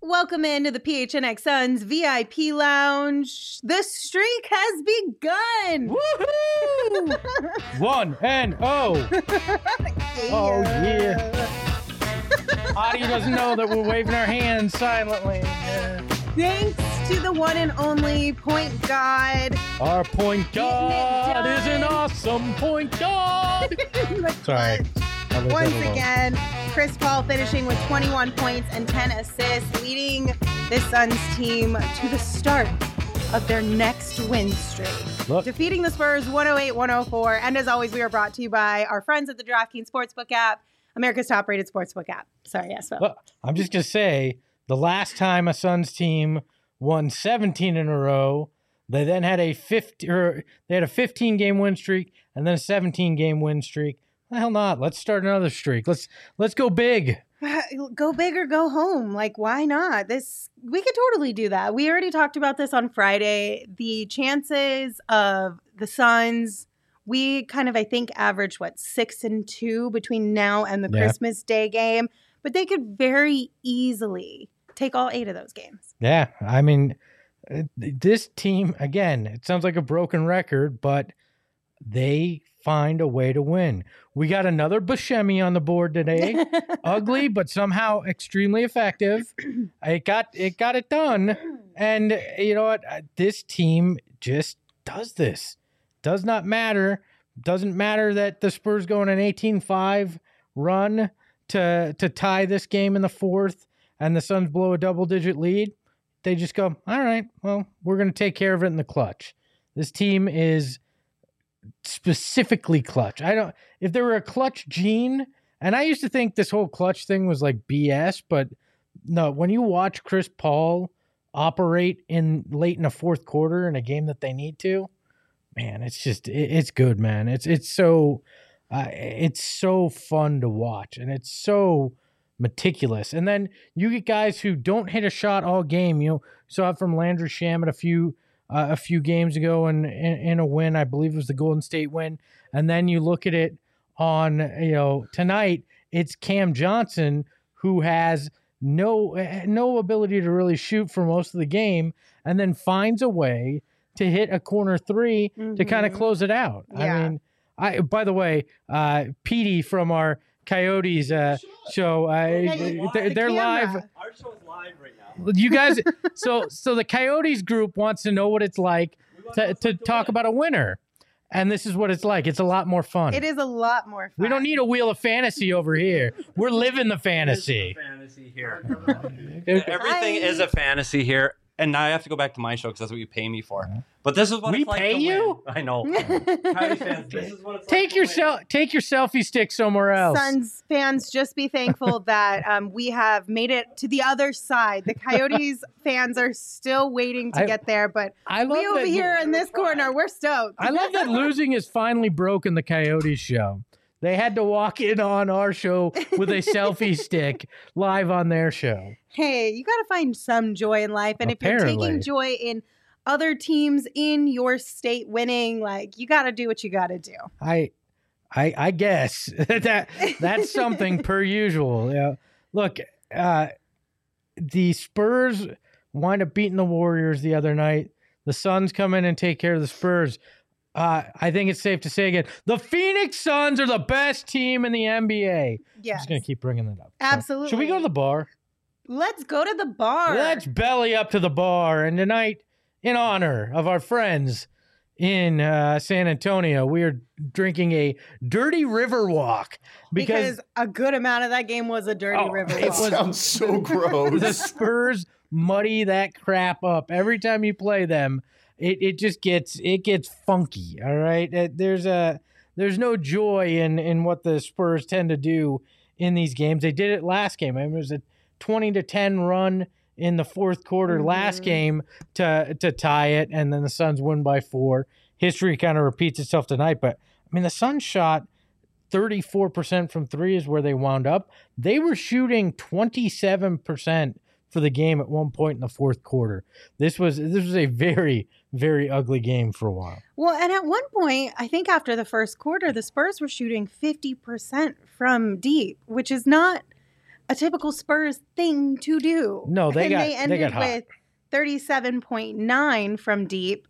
Welcome into the PHNX Suns VIP Lounge. The streak has begun. Woohoo! 1-0. Oh, yeah. Audio doesn't know that we're waving our hands silently. Thanks to the one and only point god. Our point guard is an awesome point guard. Sorry. Once again, Chris Paul finishing with 21 points and 10 assists, leading the Suns team to the start of their next win streak. Defeating the Spurs 108-104. And as always, we are brought to you by our friends at the DraftKings Sportsbook app, America's top-rated sportsbook app. Sorry, yes, Phil. Well, I'm just going to say, the last time a Suns team won 17 in a row, they then had a 15-game win streak and then a 17-game win streak. The hell not? Let's start another streak. Let's go big. Go big or go home. Like, why not? We could totally do that. We already talked about this on Friday. The chances of the Suns, we kind of, I think, averaged 6-2 between now and the Christmas Day game, but they could very easily take all 8 of those games. Yeah, I mean, this team, again, it sounds like a broken record, but they find a way to win. We got another Buscemi on the board today. Ugly, but somehow extremely effective. It got it done. And you know what? This team just does this. Does not matter. Doesn't matter that the Spurs go on an 18-5 run to tie this game in the fourth and the Suns blow a double-digit lead. They just go, all right, well, we're going to take care of it in the clutch. This team is specifically clutch. If there were a clutch gene, and I used to think this whole clutch thing was like BS, but no, when you watch Chris Paul operate late in the fourth quarter in a game that they need to, man, it's good, man. It's so fun to watch, and it's so meticulous. And then you get guys who don't hit a shot all game. You saw it from Landry Shamet a few games ago in a win. I believe it was the Golden State win. And then you look at it on, tonight, it's Cam Johnson who has no ability to really shoot for most of the game and then finds a way to hit a corner three to kind of close it out. Yeah. I mean, by the way, Petey from our Coyotes show, they're live. Our show is live right now. You guys, so the Coyotes group wants to know what it's like to talk about a winner. And this is what it's like. It's a lot more fun. It is a lot more fun. We don't need a wheel of fantasy over here. We're living the fantasy. Fantasy here. Everything is a fantasy here. And now I have to go back to my show because that's what you pay me for. But this is what we it's like pay to you. Win. I know. Coyotes fans, this is what it's take like your to win. take your selfie stick somewhere else. Suns fans, just be thankful that we have made it to the other side. The Coyotes fans are still waiting to get there, but we over here in this corner, we're stoked. I love that losing has finally broken the Coyotes show. They had to walk in on our show with a selfie stick live on their show. Hey, you got to find some joy in life. And Apparently. If you're taking joy in other teams in your state winning, you got to do what you got to do. I guess that's something per usual. Yeah. Look, the Spurs wind up beating the Warriors the other night. The Suns come in and take care of the Spurs. I think it's safe to say again, the Phoenix Suns are the best team in the NBA. Yes. I'm just going to keep bringing that up. Absolutely. So, should we go to the bar? Let's go to the bar. Let's belly up to the bar. And tonight, in honor of our friends in San Antonio, we are drinking a Dirty River Walk. Because a good amount of that game was a Dirty River Walk. It sounds so gross. The Spurs muddy that crap up. Every time you play them, it just gets funky. All right. There's no joy in what the Spurs tend to do in these games. They did it last game. I mean, it was a 20-10 run in the fourth quarter last game to tie it, and then the Suns win by 4. History kind of repeats itself tonight, but I mean the Suns shot 34% from 3 is where they wound up. They were shooting 27% for the game at one point in the fourth quarter. This was a very, very ugly game for a while. Well, and at one point, I think after the first quarter, the Spurs were shooting 50% from deep, which is not a typical Spurs thing to do. No, they ended got hot. with 37.9 from deep.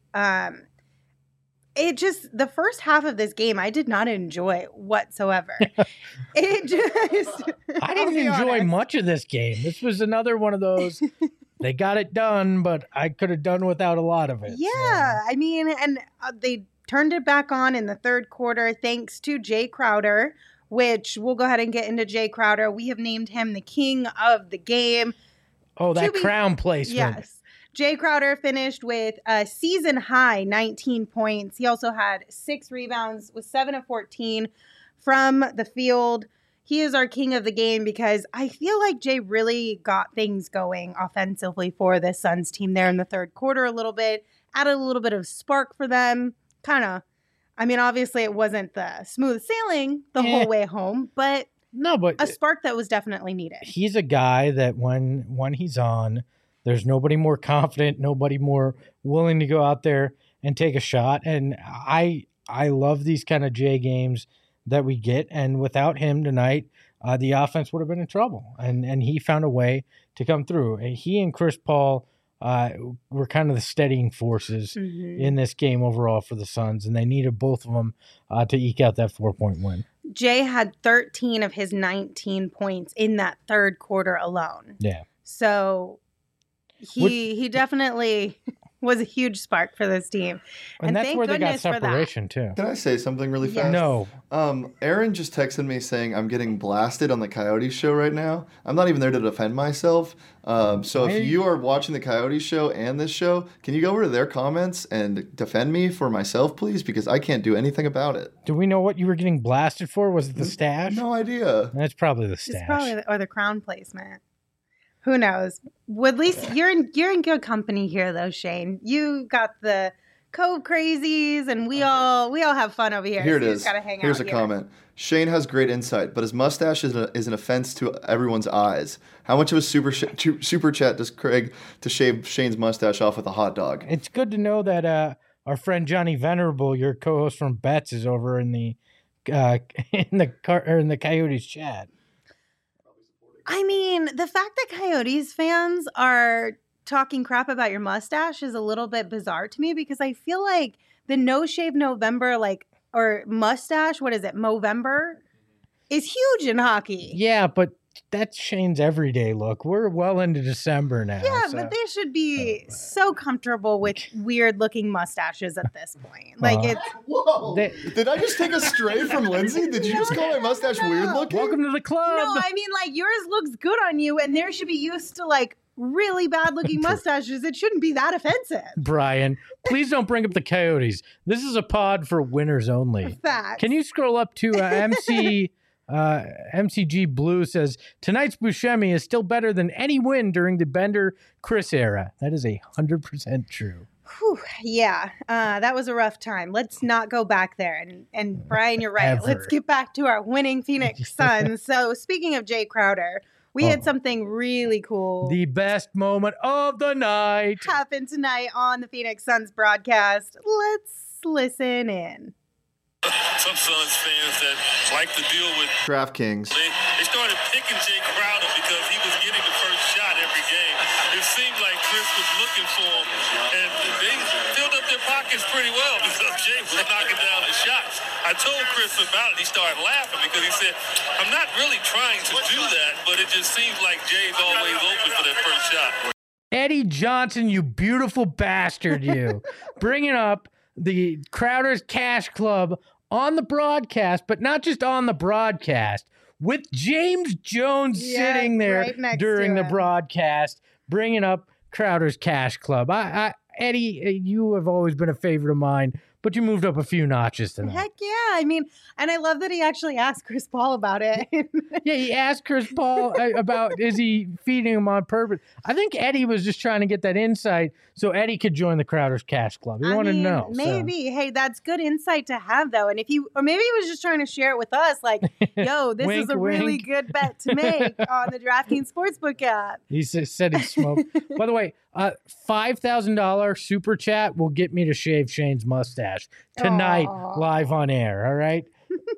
It just, the first half of this game, I did not enjoy whatsoever. It just, I didn't enjoy much of this game. This was another one of those, they got it done, but I could have done without a lot of it. Yeah. I mean, and they turned it back on in the third quarter thanks to Jay Crowder, which we'll go ahead and get into Jay Crowder. We have named him the king of the game. Oh, that crown placement. Yes. Jay Crowder finished with a season high 19 points. He also had 6 rebounds with 7 of 14 from the field. He is our king of the game because I feel like Jay really got things going offensively for this Suns team there in the third quarter a little bit, added a little bit of spark for them. Obviously it wasn't the smooth sailing the whole way home, but a spark that was definitely needed. He's a guy that when he's on, there's nobody more confident, nobody more willing to go out there and take a shot. And I love these kind of Jay games that we get. And without him tonight, the offense would have been in trouble. And he found a way to come through. And he and Chris Paul were kind of the steadying forces in this game overall for the Suns. And they needed both of them to eke out that 4-point win. Jay had 13 of his 19 points in that third quarter alone. Yeah. So he definitely was a huge spark for this team. And that's where they got separation too. Can I say something really fast? No. Aaron just texted me saying I'm getting blasted on the Coyotes show right now. I'm not even there to defend myself. So if you are watching the Coyotes show and this show, can you go over to their comments and defend me for myself, please? Because I can't do anything about it. Do we know what you were getting blasted for? Was it the stash? No idea. That's probably the stash. It's probably or the crown placement. Who knows? Well, at least you're in good company here, though, Shane. You got the Cove crazies, and we all have fun over here. Here it is. Here's a comment. Shane has great insight, but his mustache is an offense to everyone's eyes. How much of a super chat does Craig to shave Shane's mustache off with a hot dog? It's good to know that our friend Johnny Venerable, your co-host from Betts, is over in the Coyotes chat. I mean, the fact that Coyotes fans are talking crap about your mustache is a little bit bizarre to me because I feel like the No Shave November, or mustache, what is it, Movember, is huge in hockey. Yeah, but that's Shane's everyday look. We're well into December now. Yeah, but they should be so comfortable with weird-looking mustaches at this point. Whoa! Did I just take a stray from Lindsay? Did you just call my mustache weird-looking? Welcome to the club. No, I mean, yours looks good on you, and there should be used to, really bad-looking mustaches. It shouldn't be that offensive. Brian, please don't bring up the Coyotes. This is a pod for winners only. Facts. Can you scroll up to MCG Blue says, tonight's Buscemi is still better than any win during the Bender-Chris era. That is 100% true. Whew, yeah, that was a rough time. Let's not go back there. And Brian, you're right. Ever. Let's get back to our winning Phoenix Suns. So speaking of Jay Crowder, we had something really cool. The best moment of the night happened tonight on the Phoenix Suns broadcast. Let's listen in. Some Suns fans that like to deal with DraftKings. They started picking Jay Crowder because he was getting the first shot every game. It seemed like Chris was looking for him, and they filled up their pockets pretty well because Jay was knocking down the shots. I told Chris about it. He started laughing because he said, I'm not really trying to do that, but it just seems like Jay's always open for that first shot. Eddie Johnson, you beautiful bastard, you. Bringing up the Crowder's Cash Club on the broadcast, but not just on the broadcast, with James Jones sitting there right during the broadcast, bringing up Crowder's Cash Club. Eddie, you have always been a favorite of mine, but you moved up a few notches tonight. Heck yeah. I mean, and I love that he actually asked Chris Paul about it. Yeah, he asked Chris Paul about, is he feeding him on purpose? I think Eddie was just trying to get that insight so Eddie could join the Crowder's Cash Club. He wanted to know. Maybe. So. Hey, that's good insight to have, though. And or maybe he was just trying to share it with us, yo, this wink, is a really good bet to make on the DraftKings Sportsbook app. He said he smoked. By the way, $5,000 super chat will get me to shave Shane's mustache tonight, live on air. All right.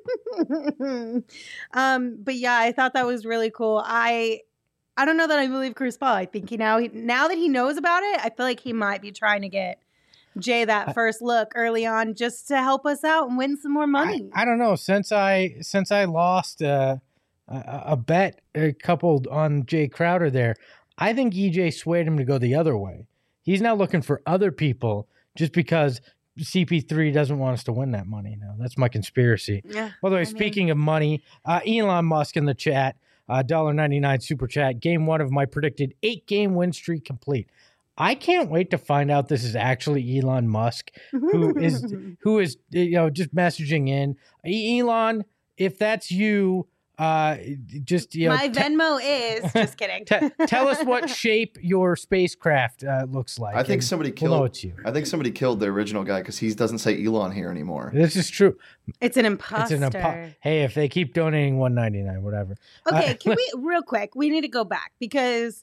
But yeah, I thought that was really cool. I don't know that I believe Chris Paul. I think now that he knows about it, I feel like he might be trying to get Jay that first look early on just to help us out and win some more money. I don't know. Since I lost a bet coupled on Jay Crowder there, I think EJ swayed him to go the other way. He's now looking for other people just because CP3 doesn't want us to win that money now. That's my conspiracy. Yeah. By the way, speaking of money, Elon Musk in the chat, $1.99 super chat, game 1 of my predicted 8-game win streak complete. I can't wait to find out this is actually Elon Musk who is just messaging in. Elon, if that's you, just my Venmo is just kidding. Tell us what shape your spacecraft looks like. I think somebody killed. We'll know it's you. I think somebody killed the original guy because he doesn't say Elon here anymore. This is true. It's an imposter. Hey, if they keep donating $1.99, whatever. Okay, can we real quick? We need to go back because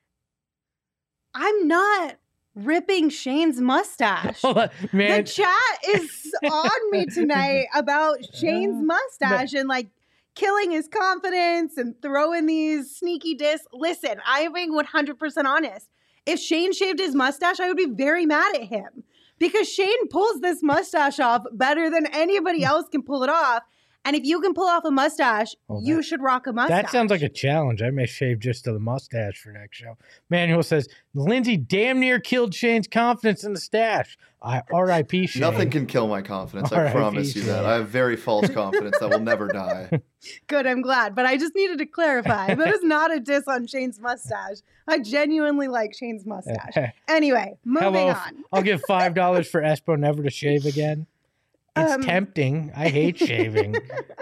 I'm not ripping Shane's mustache. Man. The chat is on me tonight about Shane's mustache and like killing his confidence and throwing these sneaky discs. Listen, I'm being 100% honest. If Shane shaved his mustache, I would be very mad at him because Shane pulls this mustache off better than anybody else can pull it off. And if you can pull off a mustache, you should rock a mustache. That sounds like a challenge. I may shave just to the mustache for next show. Manuel says, Lindsay damn near killed Shane's confidence in the stash. R.I.P. Shane. Nothing can kill my confidence. I promise you that. I have very false confidence that will never die. Good, I'm glad. But I just needed to clarify. That is not a diss on Shane's mustache. I genuinely like Shane's mustache. Anyway, moving on. I'll give $5 for Espo never to shave again. It's tempting. I hate shaving.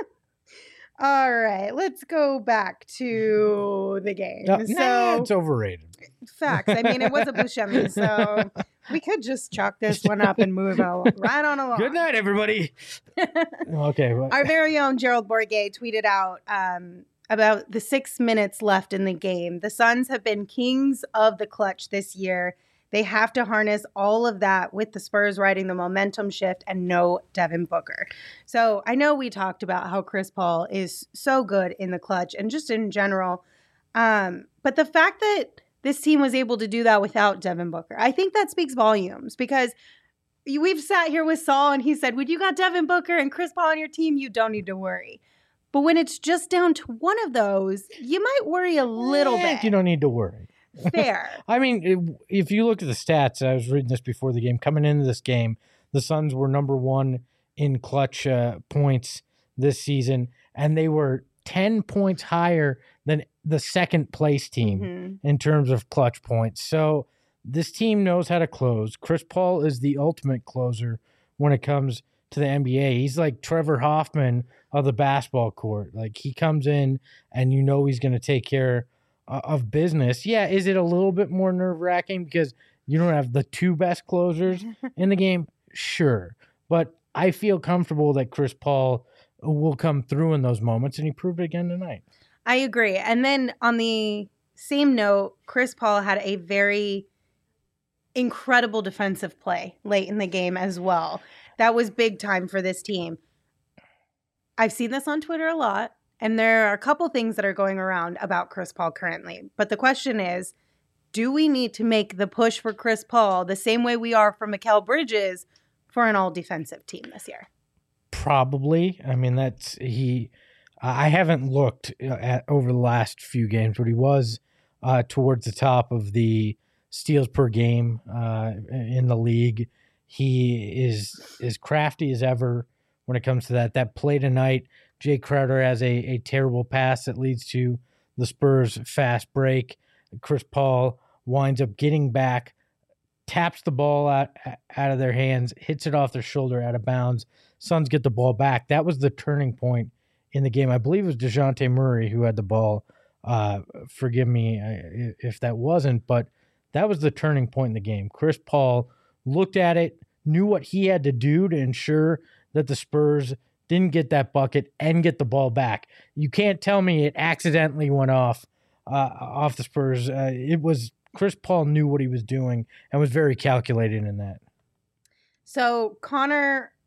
All right, let's go back to the game. It's overrated. Facts. I mean, it was a Buscemi, so we could just chalk this one up and move right on along. Good night, everybody. Okay. Our very own Gerald Bourguet tweeted out about the 6 minutes left in the game. The Suns have been kings of the clutch this year. They have to harness all of that with the Spurs riding the momentum shift and no Devin Booker. So I know we talked about how Chris Paul is so good in the clutch and just in general. But the fact that this team was able to do that without Devin Booker, I think that speaks volumes because we've sat here with Saul and he said, when you got Devin Booker and Chris Paul on your team, you don't need to worry. But when it's just down to one of those, you might worry a little bit. You don't need to worry. Fair. I mean, if you look at the stats, I was reading this before the game. Coming into this game, the Suns were number 1 in clutch points this season, and they were 10 points higher than the second place team in terms of clutch points. So this team knows how to close. Chris Paul is the ultimate closer when it comes to the NBA. He's like Trevor Hoffman of the basketball court. Like, he comes in and you know he's going to take care of business. Yeah, is it a little bit more nerve-wracking because you don't have the 2 best closers in the game? Sure. But I feel comfortable that Chris Paul will come through in those moments, and he proved it again tonight. I agree. And then on the same note, Chris Paul had a very incredible defensive play late in the game as well. That was big time for this team. I've seen this on Twitter a lot. And there are a couple things that are going around about Chris Paul currently. But the question is, do we need to make the push for Chris Paul the same way we are for Mikal Bridges for an all-defensive team this year? Probably. I mean, I haven't looked at over the last few games, but he was towards the top of the steals per game in the league. He is as crafty as ever when it comes to that. That play tonight, Jay Crowder has a terrible pass that leads to the Spurs' fast break. Chris Paul winds up getting back, taps the ball out of their hands, hits it off their shoulder out of bounds. Suns get the ball back. That was the turning point in the game. I believe it was DeJounte Murray who had the ball. Forgive me if that wasn't, but that was the turning point in the game. Chris Paul looked at it, knew what he had to do to ensure that the Spurs didn't get that bucket and get the ball back. You can't tell me it accidentally went off the Spurs. It was Chris Paul knew what he was doing and was very calculated in that. So Connor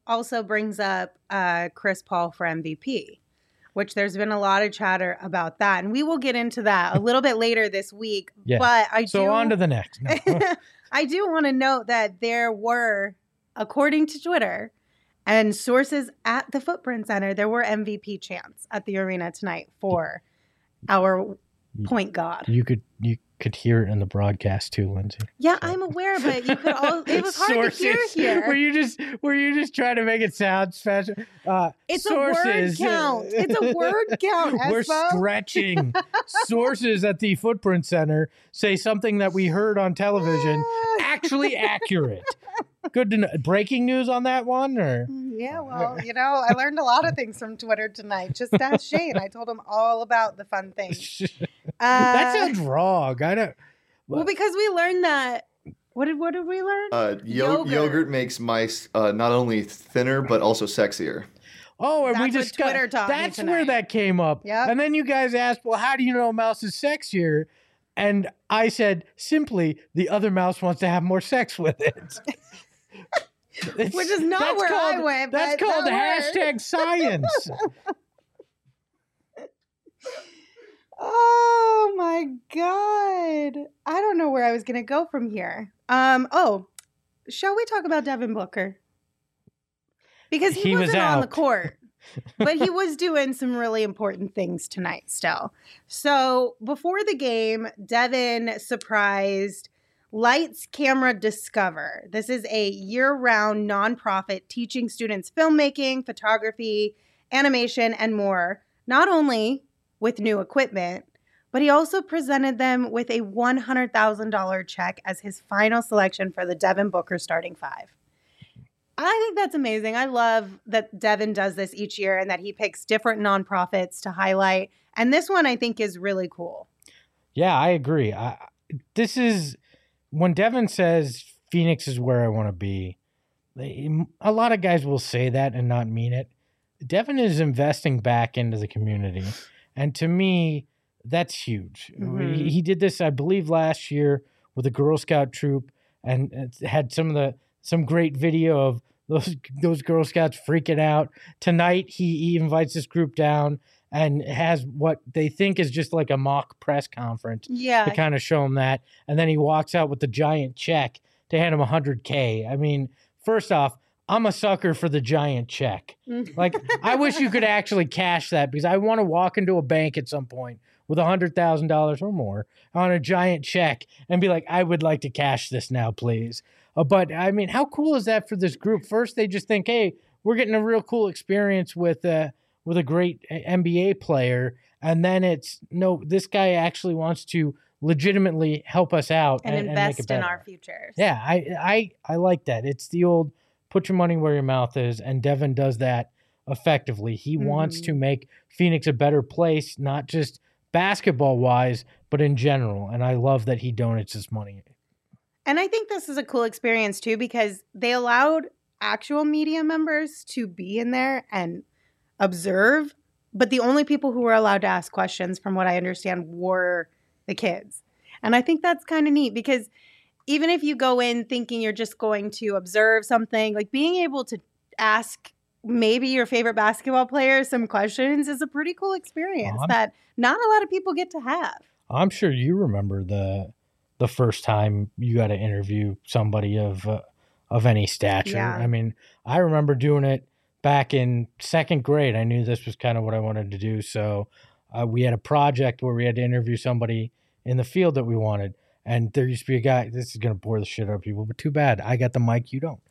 also brings up Chris Paul for MVP, which there's been a lot of chatter about that. And we will get into that a little bit later this week. Yeah. But on to the next. No. I do want to note that there were, according to Twitter and sources at the Footprint Center, there were MVP chants at the arena tonight for our point guard. You could hear it in the broadcast too, Lindsay. Yeah, I'm aware, but you could all. It was hard to hear here. Were you just trying to make it sound special? It's sources, a word count. It's a word count. We're Espo. stretching. Sources at the Footprint Center say something that we heard on television actually accurate. Good to know. Breaking news on that one, or Yeah, well, I learned a lot of things from Twitter tonight. Just ask Shane. I told him all about the fun things. that sounds wrong. I don't. Well, because we learned that. What did we learn? Yogurt makes mice not only thinner but also sexier. Oh, and That's we what discussed. Twitter taught me That's tonight. where that came up. Yep. And then you guys asked, well, how do you know a mouse is sexier? And I said, simply, the other mouse wants to have more sex with it. Which is not where I went. That's but called that worked. #science. Oh my God. I don't know where I was going to go from here. Shall we talk about Devin Booker? Because he wasn't on the out. court, but he was doing some really important things tonight still. So before the game, Devin surprised Lights Camera Discover. This is a year-round nonprofit teaching students filmmaking, photography, animation, and more, not only with new equipment, but he also presented them with a $100,000 check as his final selection for the Devin Booker starting five. I think that's amazing. I love that Devin does this each year and that he picks different nonprofits to highlight. And this one I think is really cool. Yeah, I agree. This is when Devin says Phoenix is where I want to be. A lot of guys will say that and not mean it. Devin is investing back into the community. And to me, that's huge. Mm-hmm. He did this, I believe, last year with a Girl Scout troop and had some great video of those Girl Scouts freaking out. Tonight, he invites this group down and has what they think is just like a mock press conference Yeah. to kind of show them that. And then he walks out with the giant check to hand him $100K. I mean, first off, I'm a sucker for the giant check. Like, I wish you could actually cash that because I want to walk into a bank at some point with $100,000 or more on a giant check and be like, I would like to cash this now, please. But I mean, how cool is that for this group? First, they just think, hey, we're getting a real cool experience with a great NBA player. And then it's, no, this guy actually wants to legitimately help us out and make it invest in better. our futures. Yeah, I like that. It's the old put your money where your mouth is, and Devin does that effectively. He wants to make Phoenix a better place, not just basketball-wise, but in general. And I love that he donates his money. And I think this is a cool experience, too, because they allowed actual media members to be in there and observe, but the only people who were allowed to ask questions, from what I understand, were the kids. And I think that's kind of neat because even if you go in thinking you're just going to observe something, like being able to ask maybe your favorite basketball player some questions is a pretty cool experience that not a lot of people get to have. I'm sure you remember the first time you got to interview somebody of any stature. Yeah. I mean, I remember doing it back in second grade. I knew this was kind of what I wanted to do. So we had a project where we had to interview somebody in the field that we wanted. And there used to be a guy, this is going to bore the shit out of people, but too bad. I got the mic, you don't.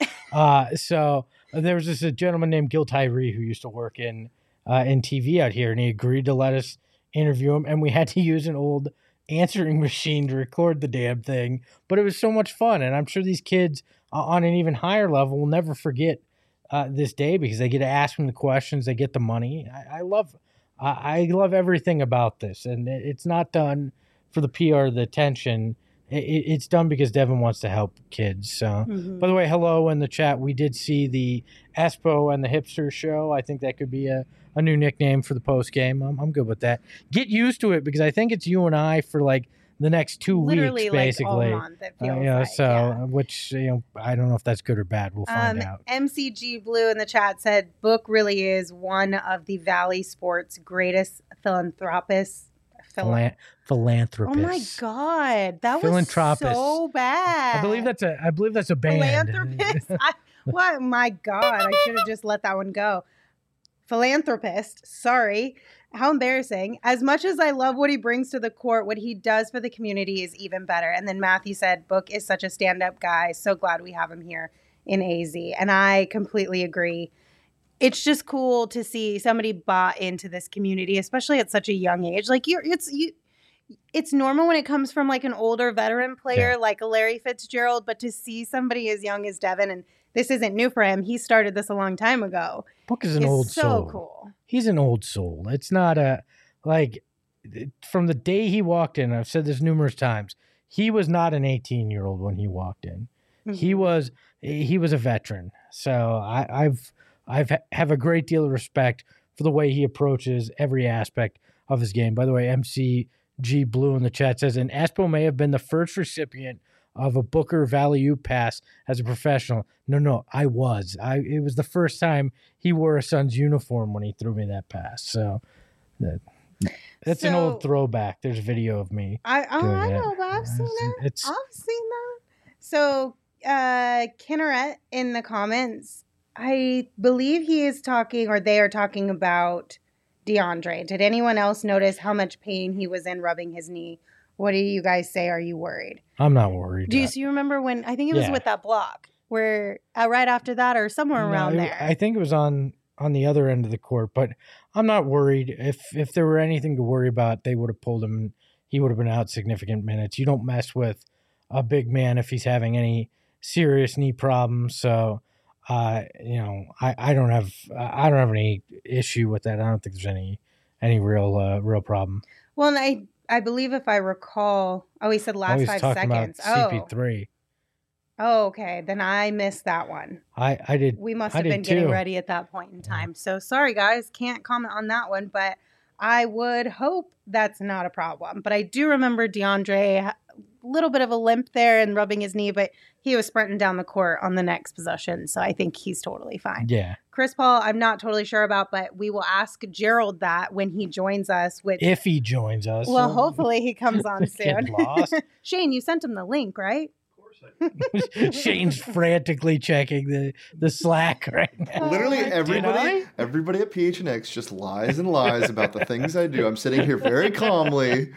So there was a gentleman named Gil Tyree who used to work in TV out here, and he agreed to let us interview him. And we had to use an old answering machine to record the damn thing. But it was so much fun. And I'm sure these kids on an even higher level will never forget this day because they get to ask them the questions, they get the money. I love everything about this. And it's not done for the PR, the attention. It's done because Devin wants to help kids. So, by the way, hello in the chat. We did see the Espo and the Hipster show. I think that could be a new nickname for the post game. I'm good with that. Get used to it because I think it's you and I for like the next 2 Literally weeks, like basically. all month, it feels You know, like, so yeah. which, you know, I don't know if that's good or bad. We'll find out. MCG Blue in the chat said Book really is one of the Valley Sports greatest philanthropists. Philanthropist. Oh my God, that was Philanthropist. so bad. I believe that's a band. Philanthropist. What? My God, I should have just let that one go. Philanthropist. Sorry. How embarrassing. As much as I love what he brings to the court, what he does for the community is even better. And then Matthew said, Book is such a stand-up guy. So glad we have him here in AZ. And I completely agree. It's just cool to see somebody bought into this community, especially at such a young age. Like it's normal when it comes from like an older veteran player like a Larry Fitzgerald, but to see somebody as young as Devin, and this isn't new for him. He started this a long time ago. Book is an old soul. So cool. He's an old soul. It's not from the day he walked in, I've said this numerous times, he was not an 18-year-old when he walked in. Mm-hmm. He was a veteran. So I have a great deal of respect for the way he approaches every aspect of his game. By the way, MCG Blue in the chat says, and Espo may have been the first recipient of a Booker Valley pass as a professional. No, I was. It was the first time he wore a Suns uniform when he threw me that pass. So that's an old throwback. There's video of me. I know, but I've seen that. I've seen that. So Kinneret in the comments, I believe he is talking, or they are talking about DeAndre. Did anyone else notice how much pain he was in rubbing his knee? What do you guys say? Are you worried? I'm not worried. Do you remember when, I think it was with that block, where right after that or somewhere around there? I think it was on the other end of the court, but I'm not worried. If there were anything to worry about, they would have pulled him. He would have been out significant minutes. You don't mess with a big man if he's having any serious knee problems. So, I don't have any issue with that. I don't think there's any real problem. Well, and I believe if I recall, he said last 5 seconds. CP3. Oh, okay. Then I missed that one. I did. We must have been getting ready at that point in time. So sorry, guys. Can't comment on that one, but I would hope that's not a problem. But I do remember DeAndre, a little bit of a limp there and rubbing his knee, but he was sprinting down the court on the next possession. So I think he's totally fine. Yeah. Chris Paul, I'm not totally sure about, but we will ask Gerald that when he joins us. If he joins us. Well, hopefully he comes on soon. Lost. Shane, you sent him the link, right? Shane's frantically checking the Slack right now. Literally everybody at PHNX just lies and lies about the things I do. I'm sitting here very calmly.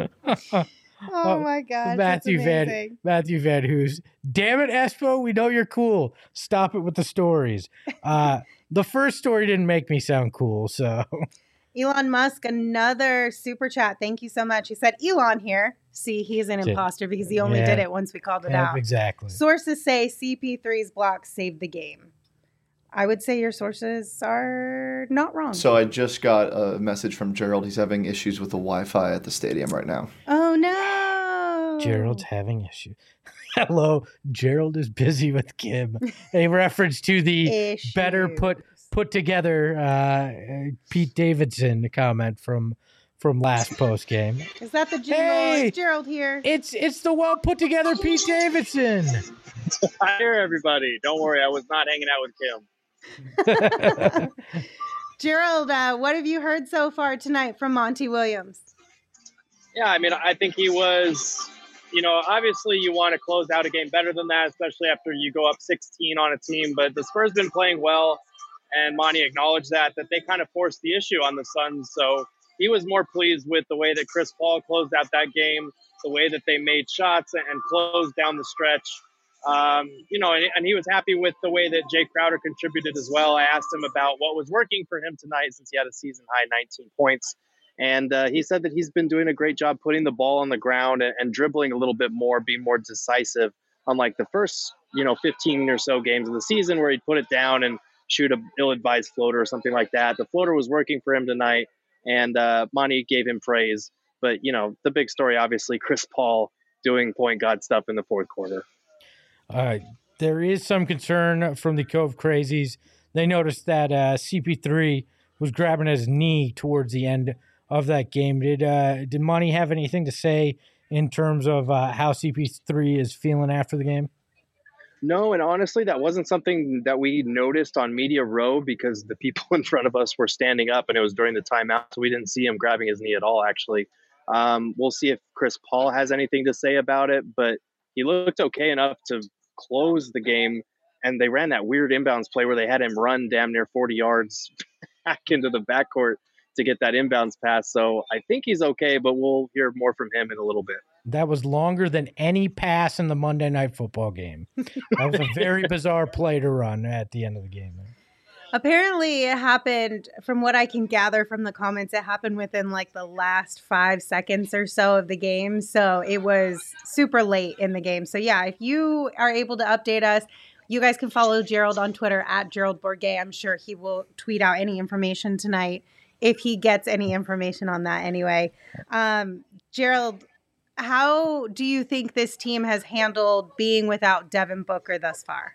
Oh my gosh. Matthew Van Hoos. Damn it, Espo, we know you're cool. Stop it with the stories. The first story didn't make me sound cool, so. Elon Musk, another super chat. Thank you so much. He said, Elon here. See, he's an imposter because he only did it once we called it out. Exactly. Sources say CP3's block saved the game. I would say your sources are not wrong. So I just got a message from Gerald. He's having issues with the Wi-Fi at the stadium right now. Oh, no. Gerald's having issues. Hello, Gerald is busy with Kim. A reference to the better put together Pete Davidson comment from last post game. Is that the jingle? Hey, it's Gerald here. It's the well put together Pete Davidson. I hear everybody. Don't worry, I was not hanging out with Kim. Gerald, what have you heard so far tonight from Monty Williams? Yeah, I mean, I think he was, obviously you want to close out a game better than that, especially after you go up 16 on a team. But the Spurs been playing well, and Monty acknowledged that they kind of forced the issue on the Suns. So he was more pleased with the way that Chris Paul closed out that game, the way that they made shots and closed down the stretch. And he was happy with the way that Jay Crowder contributed as well. I asked him about what was working for him tonight since he had a season-high 19 points. And he said that he's been doing a great job putting the ball on the ground and dribbling a little bit more, being more decisive, unlike the first, 15 or so games of the season where he'd put it down and shoot a ill-advised floater or something like that. The floater was working for him tonight, and Monty gave him praise. But, the big story, obviously, Chris Paul doing point guard stuff in the fourth quarter. There is some concern from the Cove Crazies. They noticed that CP3 was grabbing his knee towards the end of that game. Did Monty have anything to say in terms of how CP3 is feeling after the game? No, and honestly, that wasn't something that we noticed on Media Row because the people in front of us were standing up and it was during the timeout, so we didn't see him grabbing his knee at all, actually. We'll see if Chris Paul has anything to say about it, but he looked okay enough to close the game, and they ran that weird inbounds play where they had him run damn near 40 yards back into the backcourt to get that inbounds pass. So I think he's okay, but we'll hear more from him in a little bit. That was longer than any pass in the Monday Night Football game. That was a very bizarre play to run at the end of the game. Apparently, it happened, from what I can gather from the comments, it happened within like the last 5 seconds or so of the game. So it was super late in the game. So yeah, if you are able to update us, you guys can follow Gerald on Twitter at Gerald Bourget. I'm sure he will tweet out any information tonight if he gets any information on that anyway. Gerald, how do you think this team has handled being without Devin Booker thus far?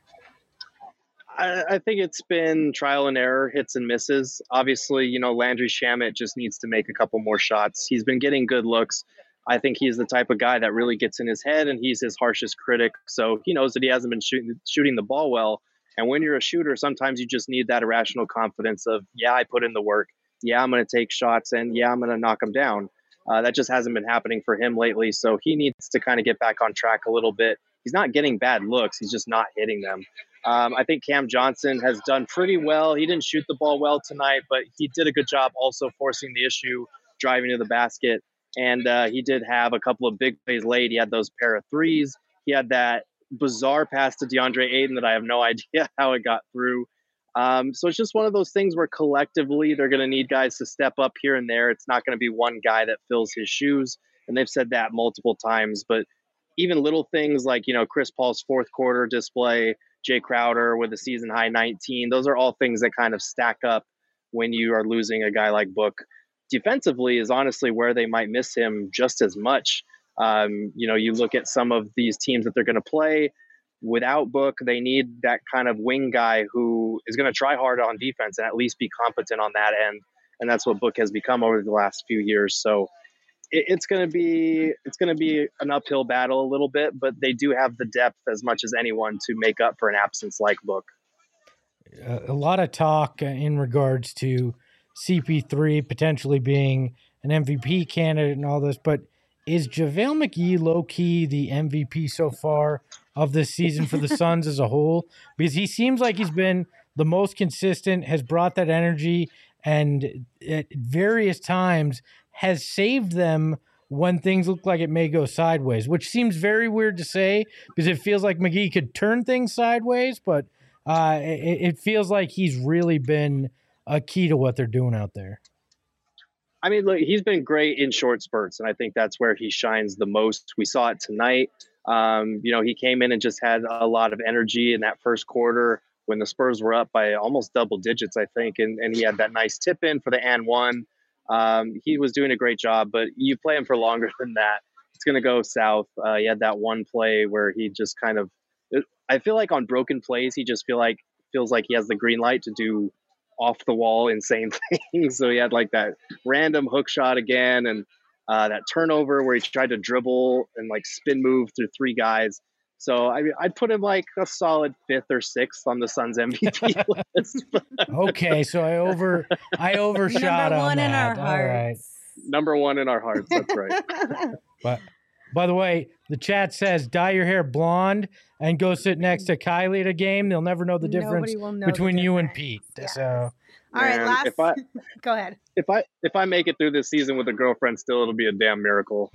I think it's been trial and error, hits and misses. Obviously, Landry Shamet just needs to make a couple more shots. He's been getting good looks. I think he's the type of guy that really gets in his head, and he's his harshest critic. So he knows that he hasn't been shooting the ball well. And when you're a shooter, sometimes you just need that irrational confidence of, yeah, I put in the work. Yeah, I'm going to take shots, and yeah, I'm going to knock them down. That just hasn't been happening for him lately. So he needs to kind of get back on track a little bit. He's not getting bad looks. He's just not hitting them. I think Cam Johnson has done pretty well. He didn't shoot the ball well tonight, but he did a good job also forcing the issue, driving to the basket. And he did have a couple of big plays late. He had those pair of threes. He had that bizarre pass to DeAndre Ayton that I have no idea how it got through. So it's just one of those things where collectively they're going to need guys to step up here and there. It's not going to be one guy that fills his shoes. And they've said that multiple times. But even little things like, Chris Paul's fourth quarter display, Jay Crowder with a season high 19, those are all things that kind of stack up when you are losing a guy like Book. Defensively is honestly where they might miss him just as much. You look at some of these teams that they're going to play without Book, they need that kind of wing guy who is going to try hard on defense and at least be competent on that end. And that's what Book has become over the last few years. So it's going to be an uphill battle a little bit, but they do have the depth as much as anyone to make up for an absence like Book. A lot of talk in regards to CP3 potentially being an MVP candidate and all this, but is JaVale McGee low-key the MVP so far of this season for the Suns as a whole? Because he seems like he's been the most consistent, has brought that energy, and at various times has saved them when things look like it may go sideways, which seems very weird to say because it feels like McGee could turn things sideways, but it feels like he's really been a key to what they're doing out there. I mean, look, he's been great in short spurts, and I think that's where he shines the most. We saw it tonight. He came in and just had a lot of energy in that first quarter when the Spurs were up by almost double digits, I think, and he had that nice tip in for the and one. He was doing a great job, but you play him for longer than that, it's going to go south. He had that one play where he just kind of, I feel like on broken plays, he just feels like he has the green light to do off the wall insane things. So he had like that random hook shot again, and that turnover where he tried to dribble and like spin move through three guys. So I'd put him like a solid 5th or 6th on the Suns MVP list. Okay, so I overshot Number one on in that. our All right. hearts. Number 1 in our hearts. That's right. But by the way, the chat says dye your hair blonde and go sit next to Kylie at a game. They'll never know the difference Nobody will know between the you and difference. Pete. Yes. So All right, Man, go ahead. If I make it through this season with a girlfriend still, it'll be a damn miracle.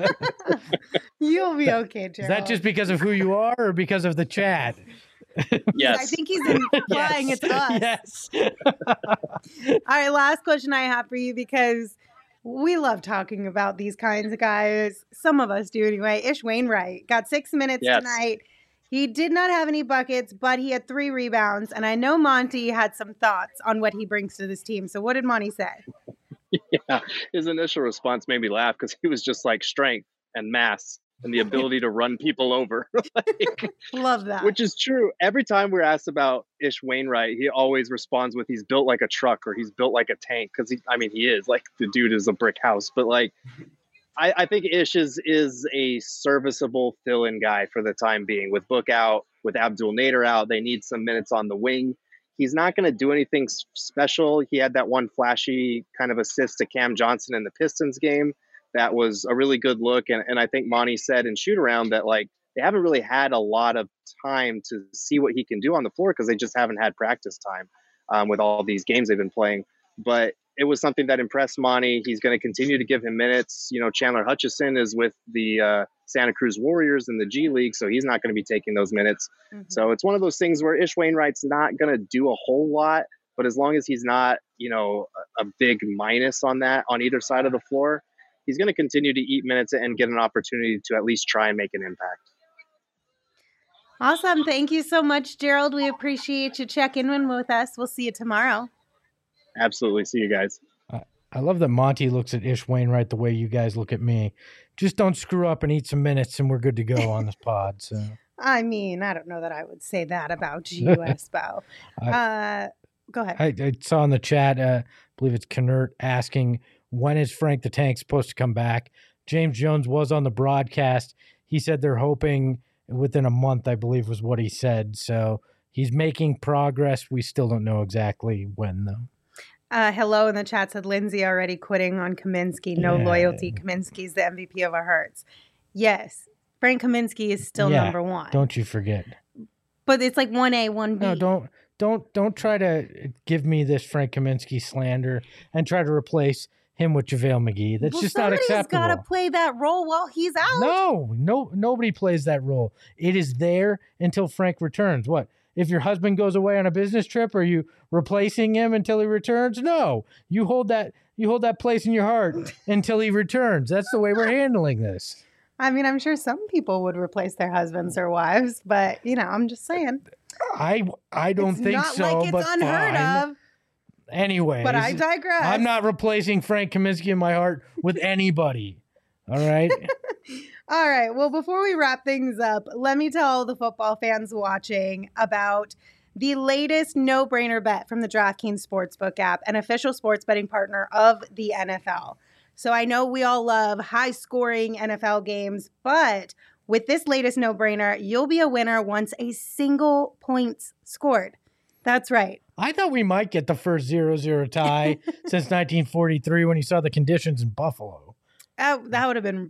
You'll be okay, Gerald. is that just because of who you are or because of the chat? Yes. I think he's implying it's us. Yes. All right, last question I have for you, because we love talking about these kinds of guys. Some of us do anyway. Ish Wainwright got 6 minutes tonight. He did not have any buckets, but he had 3 rebounds. And I know Monty had some thoughts on what he brings to this team. So what did Monty say? Yeah, his initial response made me laugh because he was just like strength and mass and the ability to run people over. Love that. Which is true. Every time we're asked about Ish Wainwright, he always responds with he's built like a truck or he's built like a tank. Because he is like, the dude is a brick house. But like, I think Ish is a serviceable fill-in guy for the time being. With Book out, with Abdul Nader out, they need some minutes on the wing. He's not going to do anything special. He had that one flashy kind of assist to Cam Johnson in the Pistons game. That was a really good look. And I think Monty said in shoot around that like they haven't really had a lot of time to see what he can do on the floor because they just haven't had practice time with all these games they've been playing. But it was something that impressed Monty. He's going to continue to give him minutes. You know, Chandler Hutchison is with the Santa Cruz Warriors in the G League, so he's not going to be taking those minutes. Mm-hmm. So it's one of those things where Ish Wainwright's not going to do a whole lot, but as long as he's not, you know, a big minus on that on either side of the floor, he's going to continue to eat minutes and get an opportunity to at least try and make an impact. Awesome. Thank you so much, Gerald. We appreciate you checking in with us. We'll see you tomorrow. Absolutely. See you guys. I love that Monty looks at Ish Wainwright the way you guys look at me. Just don't screw up and eat some minutes and we're good to go on this pod. So I mean, I don't know that I would say that about you, Espo. Go ahead. I saw in the chat, I believe it's Knert asking, when is Frank the Tank supposed to come back? James Jones was on the broadcast. He said they're hoping within a month, I believe was what he said. So he's making progress. We still don't know exactly when, though. Hello in the chat said Lindsay already quitting on Kaminsky. No loyalty. Kaminsky's the MVP of our hearts. Yes. Frank Kaminsky is still number one. Don't you forget. But it's like 1A, 1B. No, don't try to give me this Frank Kaminsky slander and try to replace him with JaVale McGee. That's just not acceptable. Somebody's got to play that role while he's out. No, nobody plays that role. It is there until Frank returns. What? If your husband goes away on a business trip, are you replacing him until he returns? No, you hold that place in your heart until he returns. That's the way we're handling this. I mean, I'm sure some people would replace their husbands or wives, but you know, I'm just saying. I don't think so. Not like it's unheard of. Anyways, but I digress. I'm not replacing Frank Kaminsky in my heart with anybody. All right. All right. Well, before we wrap things up, let me tell the football fans watching about the latest no-brainer bet from the DraftKings Sportsbook app, an official sports betting partner of the NFL. So I know we all love high-scoring NFL games, but with this latest no-brainer, you'll be a winner once a single point's scored. That's right. I thought we might get the first 0-0 tie since 1943 when you saw the conditions in Buffalo. That would have been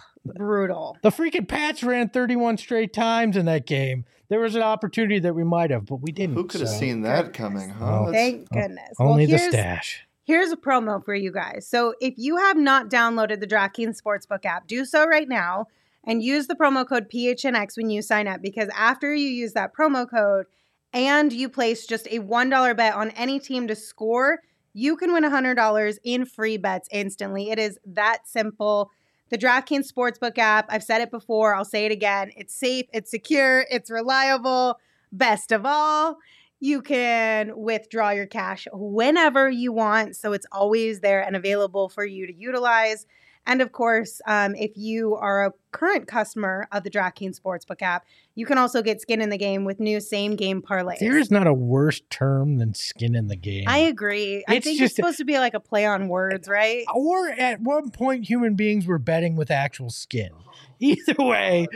brutal. The freaking Pats ran 31 straight times in that game. There was an opportunity that we might have, but we didn't. Who could have seen that coming, huh? Thank goodness. Only the stash. Here's a promo for you guys. So if you have not downloaded the DraftKings Sportsbook app, do so right now and use the promo code PHNX when you sign up, because after you use that promo code and you place just a $1 bet on any team to score, you can win $100 in free bets instantly. It is that simple. The DraftKings Sportsbook app, I've said it before, I'll say it again. It's safe, it's secure, it's reliable. Best of all, you can withdraw your cash whenever you want. So it's always there and available for you to utilize. And of course, if you are a current customer of the DraftKings Sportsbook app, you can also get skin in the game with new same game parlays. There is not a worse term than skin in the game. I agree. I think it's supposed to be like a play on words, right? Or at one point, human beings were betting with actual skin. Either way,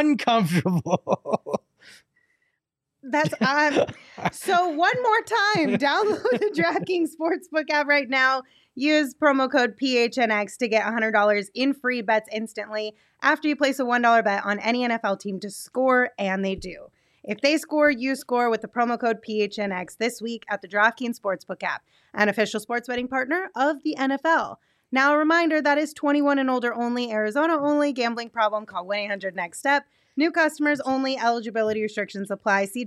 uncomfortable. That's so one more time, download the DraftKings Sportsbook app right now. Use promo code PHNX to get $100 in free bets instantly after you place a $1 bet on any NFL team to score, and they do. If they score, you score with the promo code PHNX this week at the DraftKings Sportsbook app, an official sports betting partner of the NFL. Now, a reminder, that is 21 and older only, Arizona only, gambling problem, call 1-800-NEXT-STEP. New customers only, eligibility restrictions apply. See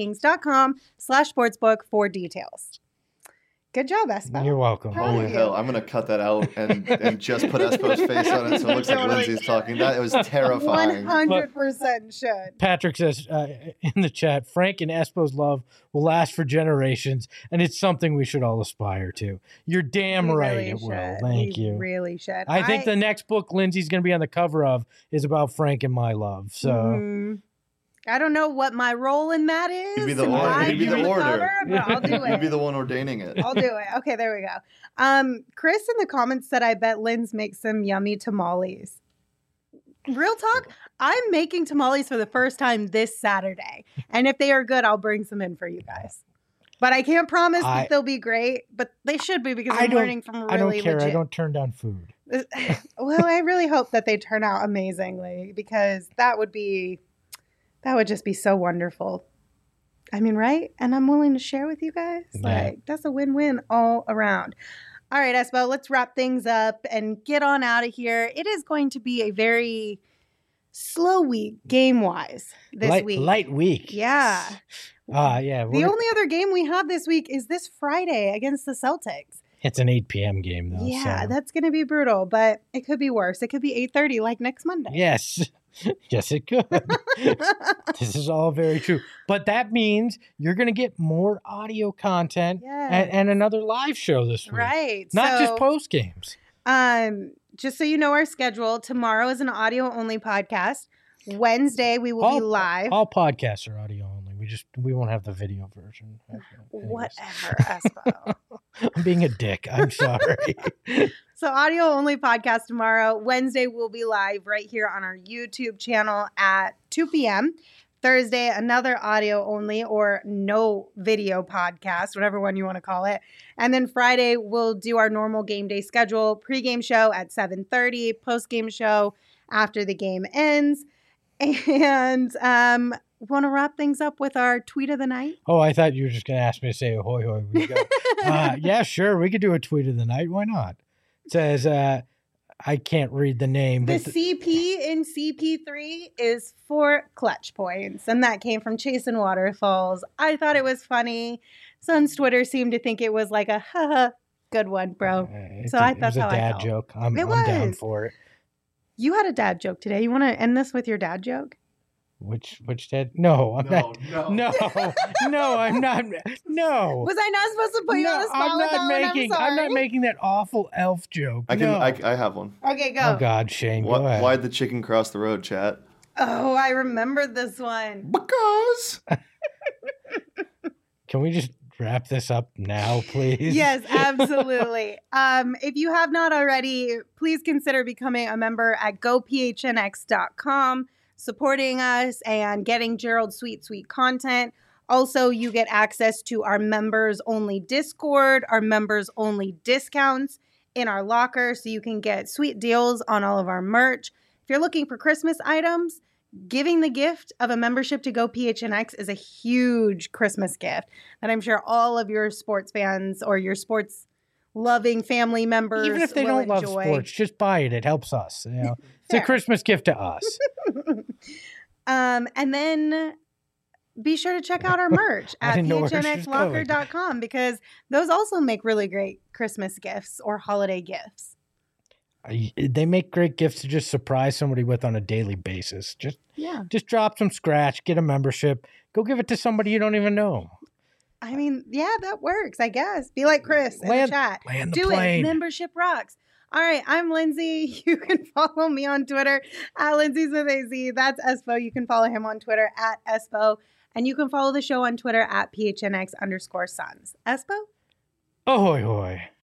DraftKings.com/sportsbook for details. Good job, Espo. You're welcome. Holy hell, I'm going to cut that out and just put Espo's face on it so it looks like Lindsay's talking. That was terrifying. 100% should. Patrick says in the chat, Frank and Espo's love will last for generations, and it's something we should all aspire to. You're damn right really it will. Thank you. Really should. I think the next book Lindsay's going to be on the cover of is about Frank and my love. So I don't know what my role in that is. You'd be the and order. why You'd be I'm the on order. cover, but I'll do it. You'd be the one ordaining it. I'll do it. Okay, there we go. Chris in the comments said, I bet Lynn's makes some yummy tamales. Real talk, I'm making tamales for the first time this Saturday. And if they are good, I'll bring some in for you guys. But I can't promise that they'll be great, but they should be because I'm learning from really I don't care. legit. I don't turn down food. Well, I really hope that they turn out amazingly because that would just be so wonderful. I mean, right? And I'm willing to share with you guys. Yeah. Like, that's a win-win all around. All right, Espo, let's wrap things up and get on out of here. It is going to be a very slow week game-wise this week. Light week. Yeah. Yeah. The only other game we have this week is this Friday against the Celtics. It's an 8 p.m. game, though. Yeah, so. that's going to be brutal, but it could be worse. It could be 8:30 like next Monday. Yes. Yes, it could. This is all very true. But that means you're going to get more audio content and another live show this week. Right. Not just post games. Just so you know our schedule, tomorrow is an audio-only podcast. Wednesday, we will be live. All podcasts are audio only. We won't have the video version. Anyways. Whatever, Espo. I'm being a dick. I'm sorry. So audio-only podcast tomorrow. Wednesday, we'll be live right here on our YouTube channel at 2 p.m. Thursday, another audio-only or no video podcast, whatever one you want to call it. And then Friday, we'll do our normal game day schedule. Pre-game show at 7:30, post-game show after the game ends. And want to wrap things up with our tweet of the night? Oh, I thought you were just going to ask me to say ahoy, hoy, we go. Yeah, sure. We could do a tweet of the night. Why not? It says, I can't read the name. The but CP in CP3 is for clutch points. And that came from Chasin' Waterfalls. I thought it was funny. Sun's Twitter seemed to think it was like a haha, good one, bro. So I thought it was a dad joke. I'm down for it. You had a dad joke today. You want to end this with your dad joke? Which dad? No, I'm not. No, I'm not. No. Was I not supposed to put you on the spot with that one? I'm not making that awful elf joke. I have one. Okay, go. Oh God, Shane, go ahead. Why'd the chicken cross the road, chat? Oh, I remember this one. Because. Can we just wrap this up now, please? Yes, absolutely. If you have not already, please consider becoming a member at gophnx.com, supporting us and getting Gerald's sweet content. Also, you get access to our members-only Discord, our members-only discounts in our locker, so you can get sweet deals on all of our merch. If you're looking for Christmas items, giving the gift of a membership to GoPHNX is a huge Christmas gift that I'm sure all of your sports fans or your sports loving family members even if they will don't love enjoy. sports, just buy it. It helps us. You know, it's a Christmas gift to us. And then be sure to check out our merch at phnxlocker.com because those also make really great Christmas gifts or holiday gifts. They make great gifts to just surprise somebody with on a daily basis. Just drop some scratch, get a membership, go give it to somebody you don't even know. I mean, yeah, that works, I guess. Be like Chris in the chat. Do it. Membership rocks. All right, I'm Lindsay. You can follow me on Twitter at Lindsay with AZ. That's Espo. You can follow him on Twitter at Espo. And you can follow the show on Twitter at PHNX_Suns. Espo? Ahoy, hoy.